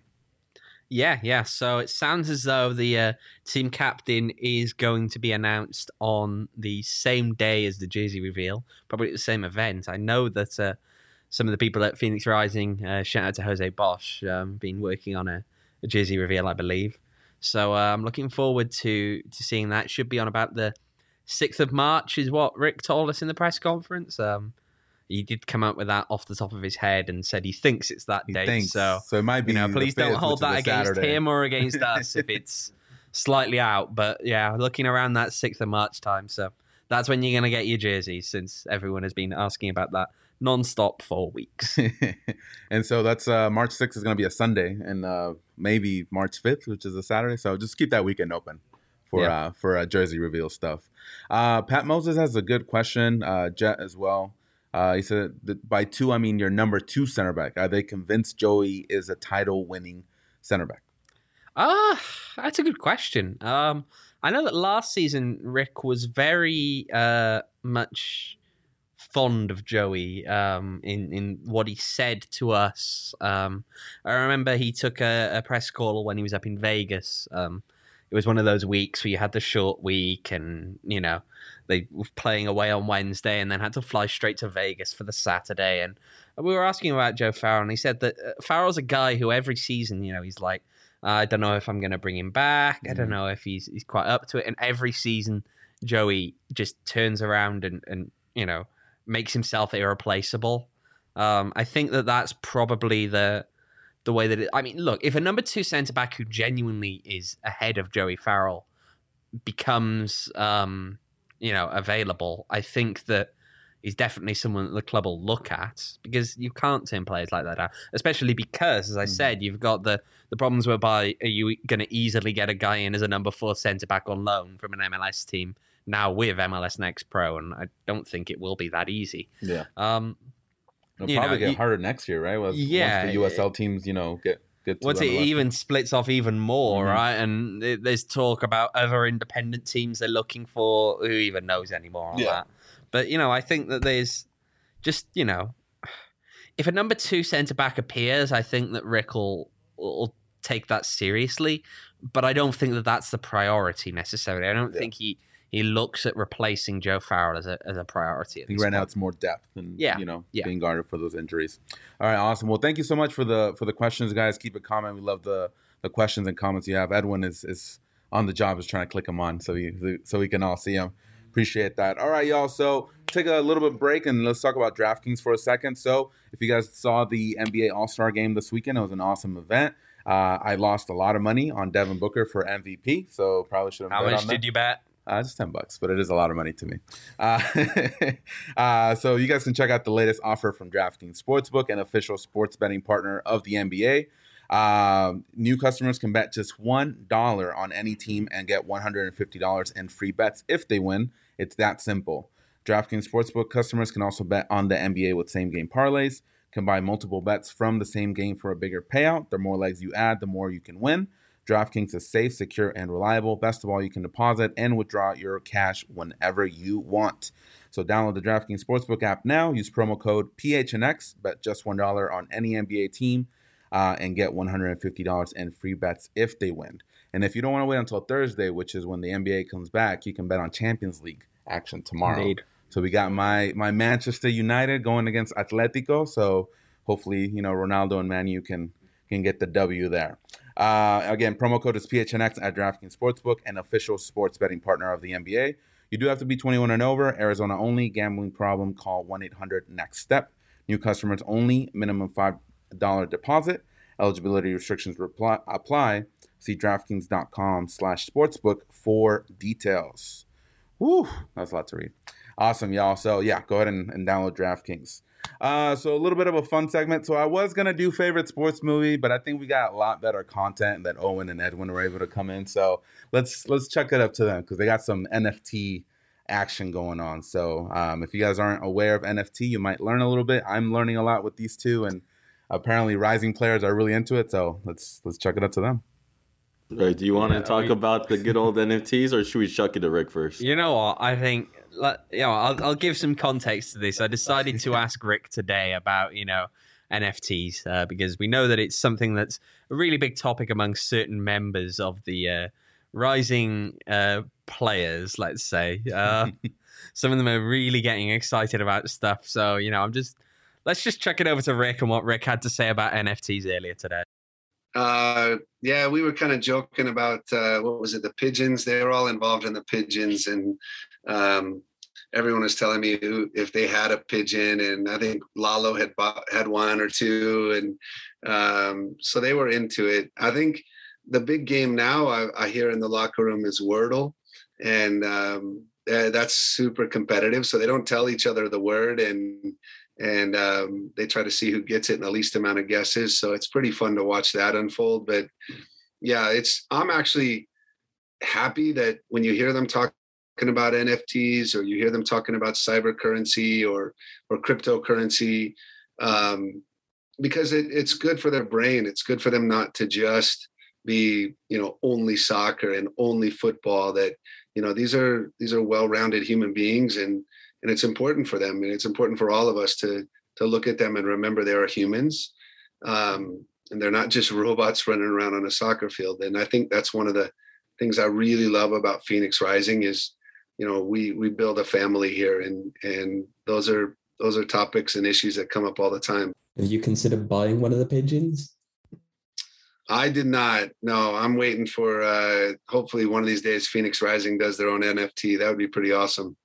S2: Yeah, yeah. So it sounds as though the uh, team captain is going to be announced on the same day as the jersey reveal, probably at the same event. I know that uh, some of the people at Phoenix Rising, uh, shout out to Jose Bosch, um, been working on a, a jersey reveal, I believe. So uh, I'm looking forward to to seeing that. Should be on about the sixth of March is what Rick told us in the press conference. Um, he did come up with that off the top of his head and said he thinks it's that
S1: he
S2: date.
S1: Thinks.
S2: So,
S1: so it might be.
S2: You know, please don't
S1: fifth,
S2: hold that against
S1: Saturday.
S2: him or against us if it's slightly out. But yeah, looking around that sixth of March time. So that's when you're going to get your jerseys, since everyone has been asking about that non-stop for weeks.
S1: And so that's uh, March sixth is going to be a Sunday, and uh, maybe March fifth, which is a Saturday. So just keep that weekend open for yeah. uh, for uh, jersey reveal stuff. Uh, Pat Moses has a good question, uh, Jet as well. Uh, he said that by two, I mean your number two center back. Are they convinced Joey is a title-winning center back?
S2: Ah, uh, that's a good question. Um, I know that last season Rick was very uh, much fond of Joey um, in in what he said to us. Um, I remember he took a, a press call when he was up in Vegas. Um, it was one of those weeks where you had the short week, and you know they were playing away on Wednesday, and then had to fly straight to Vegas for the Saturday. And we were asking about Joe Farrell, and he said that uh, Farrell's a guy who every season, you know, he's like, I don't know if I'm going to bring him back. Mm. I don't know if he's he's quite up to it. And every season, Joey just turns around and and you know makes himself irreplaceable. Um, I think that that's probably the the way that it, I mean, look, if a number two centre back who genuinely is ahead of Joey Farrell becomes um, you know available, I think that he's definitely someone that the club will look at, because you can't turn players like that out, especially because, as I mm. said, you've got the, the problems whereby are you going to easily get a guy in as a number four centre-back on loan from an M L S team now with M L S Next Pro, and I don't think it will be that easy.
S1: Yeah.
S2: Um,
S1: It'll probably
S2: know,
S1: get
S2: you,
S1: harder next year, right? Once,
S2: yeah.
S1: Once the U S L teams, you know, get...
S2: Once it even splits off even more,
S1: mm-hmm.
S2: right? And there's talk about other independent teams they're looking for. Who even knows anymore on
S1: yeah.
S2: that? But, you know, I think that there's just, you know, if a number two centre-back appears, I think that Rick will, will take that seriously. But I don't think that that's the priority necessarily. I don't yeah. think he, he looks at replacing Joe Farrell as a as a priority.
S1: He ran out some more depth and,
S2: yeah.
S1: you know,
S2: yeah.
S1: being guarded for those injuries. All right, awesome. Well, thank you so much for the for the questions, guys. Keep it comment. We love the, the questions and comments you have. Edwin is, is on the job, is trying to click them on so we, so we can all see them. Appreciate that. All right, y'all. So take a little bit break and let's talk about DraftKings for a second. So if you guys saw the N B A All-Star Game this weekend, it was an awesome event. Uh, I lost a lot of money on Devin Booker for M V P, so probably should have.
S2: How
S1: bet
S2: much
S1: on
S2: did
S1: that.
S2: you bet?
S1: Uh, just ten bucks, but it is a lot of money to me. Uh, uh, so you guys can check out the latest offer from DraftKings Sportsbook, an official sports betting partner of the N B A. Um, new customers can bet just one dollar on any team and get one hundred fifty dollars in free bets if they win. It's that simple. DraftKings Sportsbook customers can also bet on the N B A with same-game parlays, can buy multiple bets from the same game for a bigger payout. The more legs you add, the more you can win. DraftKings is safe, secure, and reliable. Best of all, you can deposit and withdraw your cash whenever you want. So download the DraftKings Sportsbook app now. Use promo code P H N X. Bet just one dollar on any N B A team uh, and get one hundred fifty dollars in free bets if they win. And if you don't want to wait until Thursday, which is when the N B A comes back, you can bet on Champions League action tomorrow.
S2: Indeed.
S1: So we got my my Manchester United going against Atletico. So hopefully, you know, Ronaldo and Man U can can get the W there. Uh, again, promo code is P H N X at DraftKings Sportsbook, an official sports betting partner of the N B A. You do have to be twenty-one and over, Arizona only. Gambling problem, call one eight hundred next step. New customers only, minimum five dollars deposit. Eligibility restrictions reply, apply. See DraftKings.com slash sportsbook for details. Woo, that's a lot to read. Awesome, y'all. So, yeah, go ahead and, and download DraftKings. Uh, so, a little bit of a fun segment. So, I was going to do favorite sports movie, but I think we got a lot better content that Owen and Edwin were able to come in. So, let's let's check it up to them because they got some N F T action going on. So, um, if you guys aren't aware of N F T, you might learn a little bit. I'm learning a lot with these two, and apparently rising players are really into it. So, let's let's check it up to them.
S3: Right. Do you want to talk
S2: we-
S3: about the good old N F Ts, or should we chuck it to Rick first?
S2: You know what? I think, like, you know, I'll, I'll give some context to this. I decided to ask Rick today about, you know, N F Ts uh, because we know that it's something that's a really big topic among certain members of the uh, rising uh, players, let's say. Uh, some of them are really getting excited about stuff. So, you know, I'm just, let's just check it over to Rick and what Rick had to say about N F Ts earlier today.
S4: Uh, yeah, we were kind of joking about, uh, what was it, the pigeons? They were all involved in the pigeons. And um, everyone was telling me who, if they had a pigeon. And I think Lalo had bought, had one or two. And um, so they were into it. I think the big game now I, I hear in the locker room is Wordle. And um, that's super competitive. So they don't tell each other the word. And and um, they try to see who gets it in the least amount of guesses. So it's pretty fun to watch that unfold. But yeah, it's, I'm actually happy that when you hear them talking about N F Ts or you hear them talking about cyber currency or, or cryptocurrency, um, because it, it's good for their brain. It's good for them not to just be, you know, only soccer and only football. That, you know, these are, these are well-rounded human beings, and, And it's important for them, and it's important for all of us to to look at them and remember they are humans, um, and they're not just robots running around on a soccer field. And I think that's one of the things I really love about Phoenix Rising is, you know, we we build a family here, and and those are those are topics and issues that come up all the time.
S5: Have you considered buying one of the pigeons?
S4: I did not. No, I'm waiting for uh, hopefully one of these days Phoenix Rising does their own N F T. That would be pretty awesome.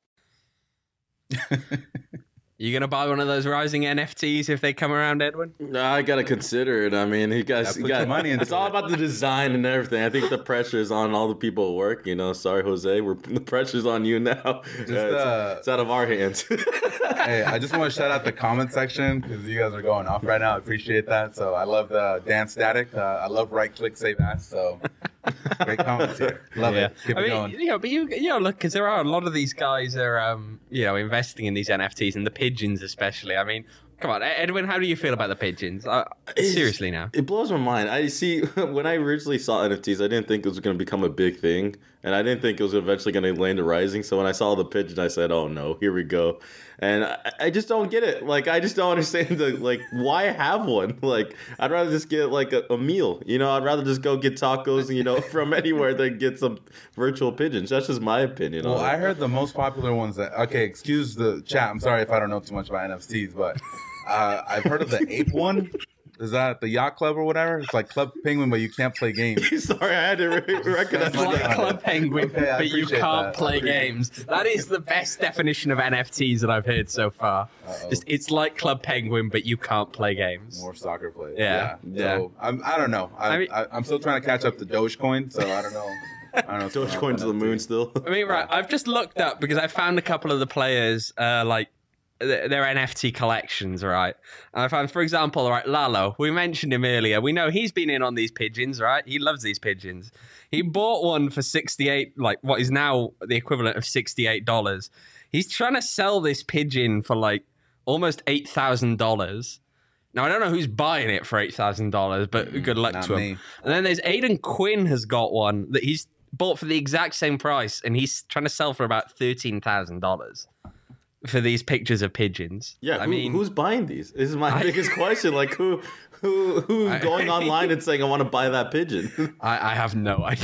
S2: You gonna buy one of those rising N F Ts if they come around, Edwin?
S3: No, I gotta consider it. I mean, you guys,
S1: Yeah,
S3: you
S1: put
S3: got
S1: your money into
S3: It's all
S1: it.
S3: about the design and everything. I think the pressure is on all the people at work. You know, sorry, Jose, we're the pressure's on you now.
S1: Just,
S3: Uh, it's,
S1: uh,
S3: it's out of our hands.
S1: Hey, I just want to shout out the comment section because you guys are going off right now. I appreciate that. So I love the Dan Static. Uh, I love right click save as. So great comments here. Love
S2: Yeah.
S1: it. Keep
S2: I
S1: it
S2: mean,
S1: going.
S2: you know, but you, you know, look, because there are a lot of these guys are, um, you know, investing in these N F Ts and the pigeons especially. I mean, come on, Edwin, how do you feel about the pigeons? Uh, seriously now.
S3: It blows my mind. I see when I originally saw N F Ts, I didn't think it was going to become a big thing, and I didn't think it was eventually going to land to Rising. So when I saw the pigeon, I said, "Oh no, here we go." And I, I just don't get it. Like, I just don't understand the like why have one. Like, I'd rather just get like a, a meal. You know, I'd rather just go get tacos, you know, from anywhere than get some virtual pigeons. That's just my opinion.
S1: Well,
S3: on
S1: I
S3: it.
S1: heard the most popular ones that, okay, excuse the chat. I'm sorry if I don't know too much about N F Ts, but uh, I've heard of the ape one. Is that the yacht club or whatever? It's like Club Penguin, but you can't play games.
S3: Sorry, I had to re- recognize
S2: It's like
S3: that.
S2: Club Penguin,
S1: Okay, I
S2: but you
S1: appreciate
S2: can't
S1: that.
S2: play games. That is the best definition of N F Ts that I've heard so far.
S1: Uh-oh.
S2: Just, it's like Club Penguin, but you can't play games.
S1: More soccer players.
S2: Yeah,
S1: Yeah. So I'm, I don't know. I,
S2: I mean-
S1: I, I'm still trying to catch up to Dogecoin, so I don't know. I don't know. what's going on
S3: Dogecoin
S1: with
S3: to the
S1: N F Ts.
S3: moon still.
S2: I mean, right, I've just looked up because I found a couple of the players, uh, like, th- their N F T collections, right? And I found, for example, right, Lalo, we mentioned him earlier. We know he's been in on these pigeons, right? He loves these pigeons. He bought one for sixty-eight, like, what is now the equivalent of sixty-eight dollars. He's trying to sell this pigeon for, like, almost eight thousand dollars. Now, I don't know who's buying it for eight thousand dollars, but good luck
S1: Not
S2: to him.
S1: me.
S2: And then there's Aiden Quinn has got one that he's bought for the exact same price, and he's trying to sell for about thirteen thousand dollars for these pictures of pigeons.
S3: Yeah,
S2: I
S3: who,
S2: mean,
S3: who's buying these? This is my
S2: I-
S3: biggest question. Like, who, who, who's
S2: I-
S3: going online and saying, "I want to buy that pigeon"?
S2: I, I have no idea.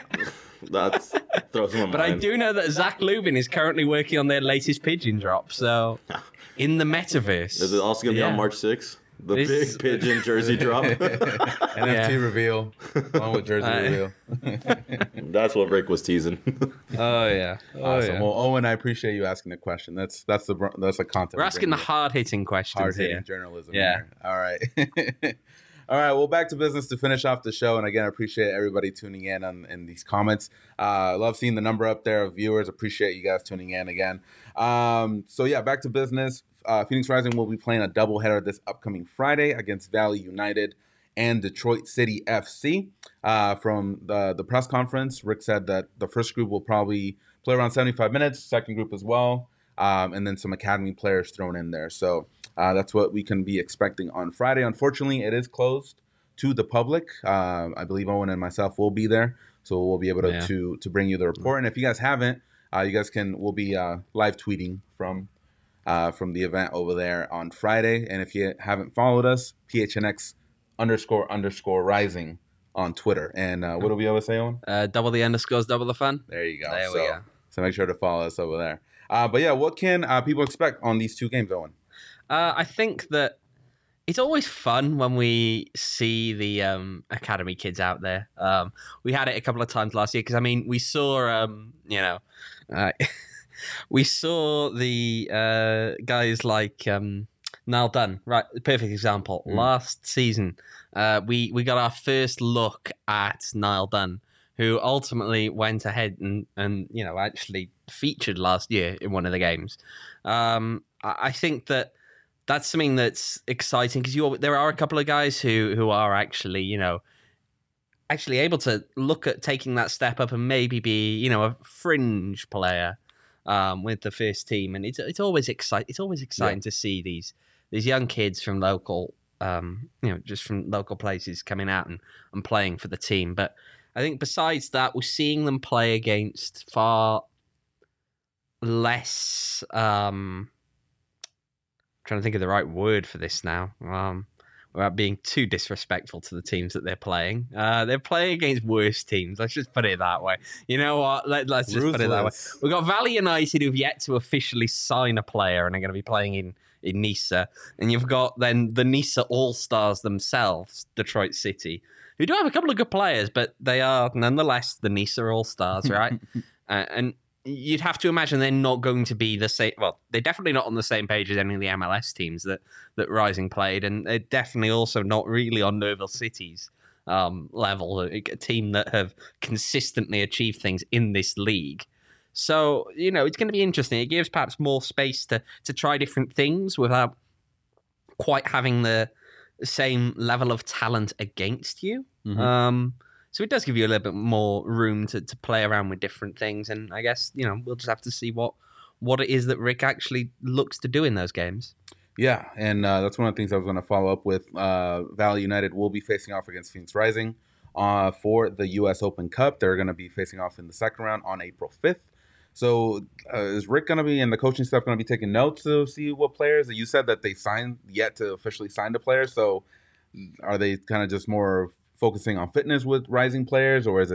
S3: That's throws my
S2: But I
S3: mind.
S2: do know that Zach Lubin is currently working on their latest pigeon drop. So, in the metaverse,
S3: Is it also gonna be
S2: Yeah.
S3: on March sixth? The
S2: This-
S3: big pigeon jersey drop.
S1: N F T
S2: Yeah.
S1: reveal, along with jersey
S2: Uh,
S1: reveal.
S3: That's what Rick was teasing.
S2: Oh yeah, oh
S1: Awesome.
S2: yeah.
S1: Well, Owen, I appreciate you asking the question. That's that's the br- that's the content.
S2: We're asking the hard hitting questions
S1: hard hitting
S2: here.
S1: journalism.
S2: Yeah.
S1: Here. All right. All right. Well, back to business to finish off the show. And again, I appreciate everybody tuning in on in these comments. Uh, love seeing the number up there of viewers. Appreciate you guys tuning in again. Um, so yeah, back to business. Uh, Phoenix Rising will be playing a doubleheader this upcoming Friday against Valley United and Detroit City F C. Uh, from the the press conference, Rick said that the first group will probably play around seventy-five minutes. Second group as well. Um, and then some academy players thrown in there. So uh, that's what we can be expecting on Friday. Unfortunately, it is closed to the public. Uh, I believe Owen and myself will be there, so we'll be able to
S2: Yeah.
S1: to, to bring you the report. And if you guys haven't, uh, you guys can we'll be uh, live tweeting from uh, from the event over there on Friday. And if you haven't followed us, P H N X underscore underscore rising on Twitter. And uh, what do we always say, Owen?
S2: Uh, double the underscores, double the fun.
S1: There you go.
S2: There
S1: so,
S2: we go.
S1: so make sure to follow us over there. Uh, but yeah, what can uh, people expect on these two games, Owen?
S2: Uh, I think that it's always fun when we see the um, academy kids out there. Um, we had it a couple of times last year because I mean we saw, um, you know, uh, we saw the uh, guys like um, Niall Dunn, right? Perfect example.
S1: Mm.
S2: Last season, uh, we we got our first look at Niall Dunn, who ultimately went ahead and, and you know, actually featured last year in one of the games. Um, I I think that that's something that's exciting because you there are a couple of guys who who are actually, you know, actually able to look at taking that step up and maybe be, you know, a fringe player um, with the first team. And it's it's always exciting. It's always exciting to see these these young kids from local, um, you know, just from local places coming out and, and playing for the team. But I think besides that, we're seeing them play against far less. Um, trying to think of the right word for this now. Um, without being too disrespectful to the teams that they're playing, uh, they're playing against worse teams. Let's just put it that way. You know what? Let, let's just put it that way.
S1: Ruthless.
S2: We've got Valley United who've yet to officially sign a player and are going to be playing in, in Nisa. And you've got then the Nisa All-Stars themselves, Detroit City, who do have a couple of good players, but they are nonetheless the Nisa All-Stars, right? uh, and you'd have to imagine they're not going to be the same. Well, they're definitely not on the same page as any of the M L S teams that, that Rising played. And they're definitely also not really on Nerville City's um, level, a, a team that have consistently achieved things in this league. So, you know, it's going to be interesting. It gives perhaps more space to to try different things without quite having the same level of talent against you.
S1: Mhm.
S2: Um, so it does give you a little bit more room to, to play around with different things. And I guess, you know, we'll just have to see what, what it is that Rick actually looks to do in those games.
S1: Yeah, and uh, that's one of the things I was going to follow up with. Uh, Valley United will be facing off against Phoenix Rising uh, for the U S Open Cup. They're going to be facing off in the second round on April fifth. So uh, is Rick going to be and the coaching staff going to be taking notes to see what players? You said that they signed yet to officially sign the players. So are they kind of just more focusing on fitness with rising players, or is it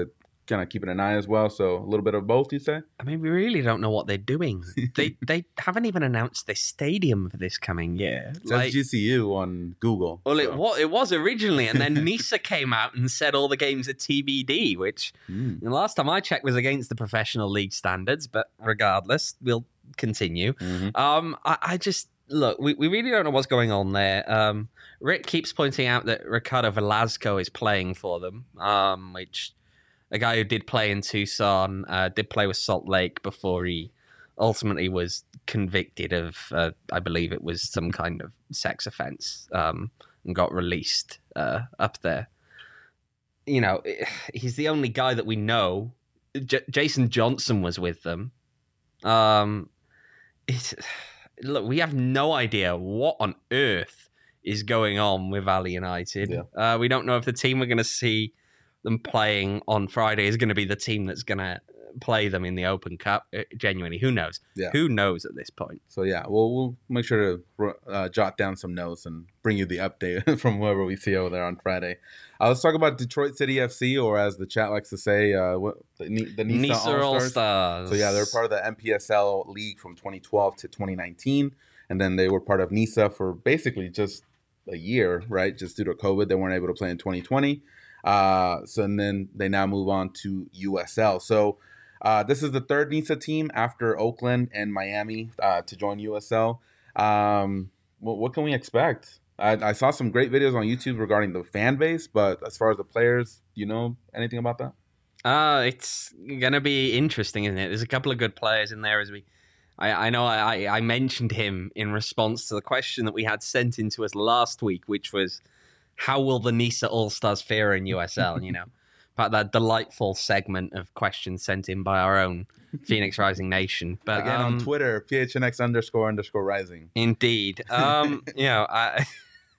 S1: kind of keeping an eye as well. So a little bit of both, you say?
S2: I mean, we really don't know what they're doing. they they haven't even announced their stadium for this coming year.
S1: It says G C U on Google.
S2: Well,
S1: so.
S2: it was it was originally, and then NISA came out and said all the games are T B D, which
S1: Mm.
S2: the last time I checked was against the professional league standards. But regardless, we'll continue.
S1: Mhm.
S2: Um, I, I just look. We, we really don't know what's going on there. Um, Rick keeps pointing out that Ricardo Velasco is playing for them, um, which a guy who did play in Tucson, uh, did play with Salt Lake before he ultimately was convicted of, uh, I believe it was some kind of sex offense, um, and got released uh, up there. You know, he's the only guy that we know. J- Jason Johnson was with them. Um, it's, look, we have no idea what on earth is going on with Valley United.
S1: Yeah.
S2: Uh, we don't know if the team we're going to see them playing on Friday is going to be the team that's going to play them in the Open Cup. Uh, genuinely, who knows?
S1: Yeah.
S2: Who knows at this point?
S1: So yeah, well, we'll make sure to uh, jot down some notes and bring you the update from whoever we see over there on Friday. Uh, let's talk about Detroit City F C, or as the chat likes to say, uh, what, the, the NISA,
S2: NISA
S1: All-Stars.
S2: All-Stars.
S1: So yeah, they're part of the M P S L league from twenty twelve to twenty nineteen, and then they were part of NISA for basically just a year, right? Just due to COVID, they weren't able to play in twenty twenty. Uh, so and then they now move on to U S L. So uh, this is the third NISA team after Oakland and Miami uh, to join U S L. Um, what, what can we expect? I, I saw some great videos on YouTube regarding the fan base, but as far as the players, do you know anything about that?
S2: Uh, it's gonna be interesting, isn't it? There's a couple of good players in there. As we, I, I know I, I mentioned him in response to the question that we had sent into us last week, which was, how will the NISA All Stars fare in U S L? You know, about that delightful segment of questions sent in by our own Phoenix Rising Nation. But
S1: Again,
S2: um,
S1: on Twitter, P H N X underscore underscore rising.
S2: Indeed. Um, you know, I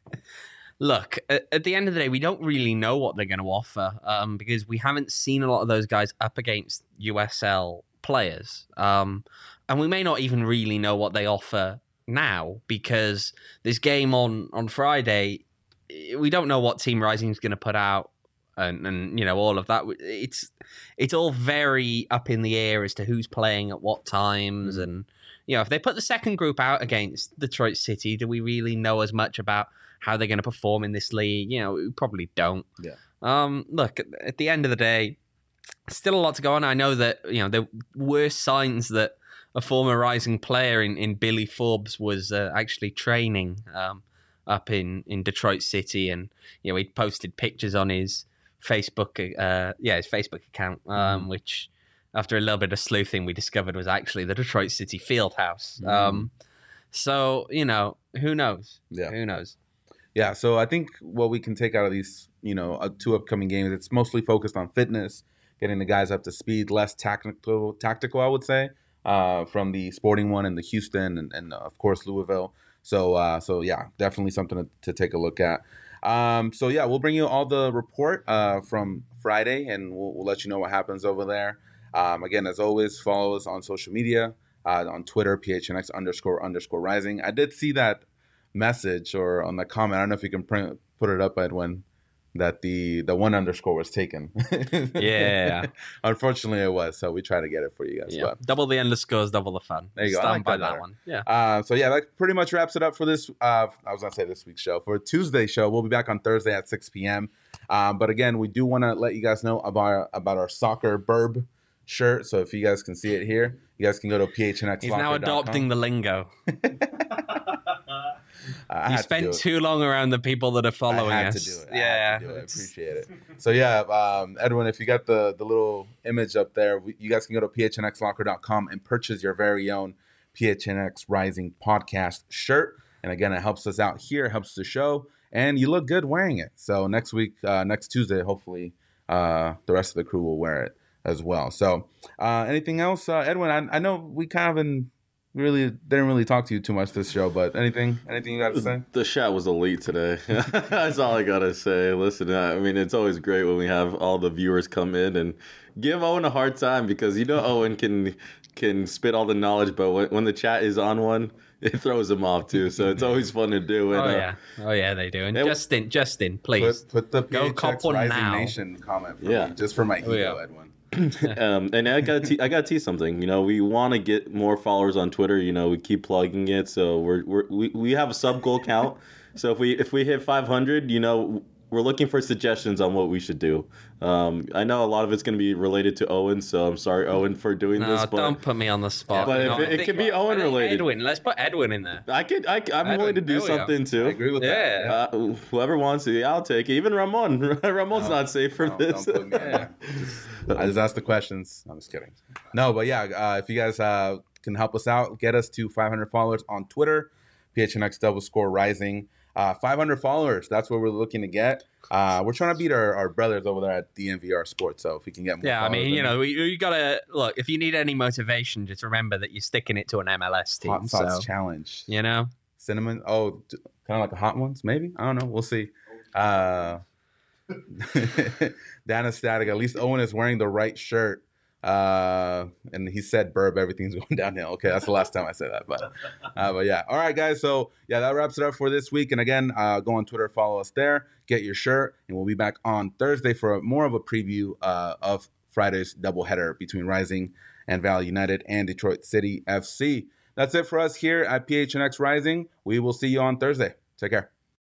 S2: look, at, at the end of the day, we don't really know what they're going to offer um, because we haven't seen a lot of those guys up against U S L players. Um, and we may not even really know what they offer now because this game on, on Friday, we don't know what Team Rising is going to put out. And, and you know, all of that. It's it's all very up in the air as to who's playing at what times. And, you know, if they put the second group out against Detroit City, do we really know as much about how they're going to perform in this league? You know, we probably don't.
S1: Yeah.
S2: Um, look, at, at the end of the day, still a lot to go on. I know that, you know, there were signs that a former Rising player in, in Billy Forbes was uh, actually training um, up in, in Detroit City. And, you know, he posted pictures on his Facebook, uh, yeah, his Facebook account, um, mm. which after a little bit of sleuthing, we discovered was actually the Detroit City Fieldhouse. Mm. Um, so, you know, who knows?
S1: Yeah.
S2: Who knows?
S1: Yeah, so I think what we can take out of these, you know, uh, two upcoming games, it's mostly focused on fitness, getting the guys up to speed, less tactical, tactical, I would say, uh, from the Sporting one and the Houston and, and of course, Louisville. So, uh, so yeah, definitely something to, to take a look at. Um, so yeah, we'll bring you all the report uh, from Friday, and we'll, we'll let you know what happens over there. Um, again, as always, follow us on social media, uh, on Twitter, P H N X underscore underscore rising. I did see that message or on the comment. I don't know if you can print, put it up, Edwin, that the the one underscore was taken.
S2: Yeah.
S1: Unfortunately, it was. So we try to get it for you guys.
S2: Yeah.
S1: But
S2: Double the underscores, double the fun.
S1: there you go. I
S2: Stand
S1: like
S2: by
S1: that
S2: that
S1: better.
S2: one. Yeah.
S1: Uh, so yeah, that pretty much wraps it up for this. Uh, I was gonna say this week's show. For Tuesday's show, we'll be back on Thursday at six p.m. Um, but again, we do want to let you guys know about our, about our soccer burb shirt. So if you guys can see it here, you guys can go to P H N X.
S2: He's now adopting the lingo.
S1: I
S2: you
S1: had
S2: spent
S1: to do it.
S2: too long around the people that are following
S1: I had
S2: us.
S1: to do it. I
S2: Yeah,
S1: had to do it. I appreciate it. So yeah, um, Edwin, if you got the the little image up there, we, you guys can go to P H N X locker dot com and purchase your very own P H N X Rising podcast shirt. And again, it helps us out here, helps the show, and you look good wearing it. So next week, uh, next Tuesday, hopefully, uh, the rest of the crew will wear it as well. So uh, anything else, uh, Edwin? I, I know we kind of in. Really didn't really talk to you too much this show, but anything anything you got to say?
S3: The chat was elite today. That's all I gotta say. Listen, I mean, it's always great when we have all the viewers come in and give Owen a hard time because you know Owen can can spit all the knowledge, but when, when the chat is on one, it throws him off too. So it's always fun to do. And,
S2: oh
S3: uh,
S2: yeah, oh yeah, they do. And
S3: it-
S2: Justin, Justin, please
S1: Put, put the
S2: Go
S1: P H X
S2: cop one
S1: Rising
S2: now.
S1: Nation comment for
S3: Yeah.
S1: me, just for my ego,
S2: Oh, yeah.
S1: Edwin.
S3: um, and I got te- I got to tease something. You know, we want to get more followers on Twitter. You know, we keep plugging it, so we're, we're we we have a sub goal count. So if we if we hit five hundred, you know, we're looking for suggestions on what we should do. Um, I know a lot of it's going to be related to Owen, so I'm sorry, Owen, for doing
S2: no,
S3: this. But
S2: don't put me on the spot.
S3: But
S2: You
S3: if
S2: know,
S3: it-
S2: I
S3: it
S2: think-
S3: could be Owen
S2: I think
S3: related.
S2: Edwin, let's put Edwin in there.
S3: I could I I'm
S2: Edwin,
S3: willing to do
S2: there we go.
S3: something
S1: I
S3: too.
S1: agree with that.
S2: Yeah.
S3: Uh, whoever wants to, yeah, I'll take it. Even Ramon. Ramon's
S1: No,
S3: not safe for
S1: no,
S3: this.
S1: don't put me in there. I just asked the questions. I'm just kidding. No, but yeah, uh, if you guys uh, can help us out, get us to five hundred followers on Twitter, P H N X Double Score Rising. Uh, five hundred followers, that's what we're looking to get. Uh, we're trying to beat our, our brothers over there at D N V R Sports, so if we can get more
S2: Yeah, I
S1: followers,
S2: mean, you
S1: then
S2: know, you, you gotta look. If you need any motivation, just remember that you're sticking it to an M L S team.
S1: Hot Sauce
S2: So,
S1: Challenge.
S2: you know,
S1: Cinnamon, oh, kind of like a hot ones, maybe? I don't know. We'll see. Uh, Dan Static, at least Owen is wearing the right shirt. Uh, and he said, "Burb, everything's going downhill." Okay, that's the last time I said that, but, uh, but yeah. All right, guys. So yeah, that wraps it up for this week. And again, uh, go on Twitter, follow us there, get your shirt, and we'll be back on Thursday for a, more of a preview uh, of Friday's doubleheader between Rising and Valley United and Detroit City F C. That's it for us here at P H N X Rising. We will see you on Thursday. Take care.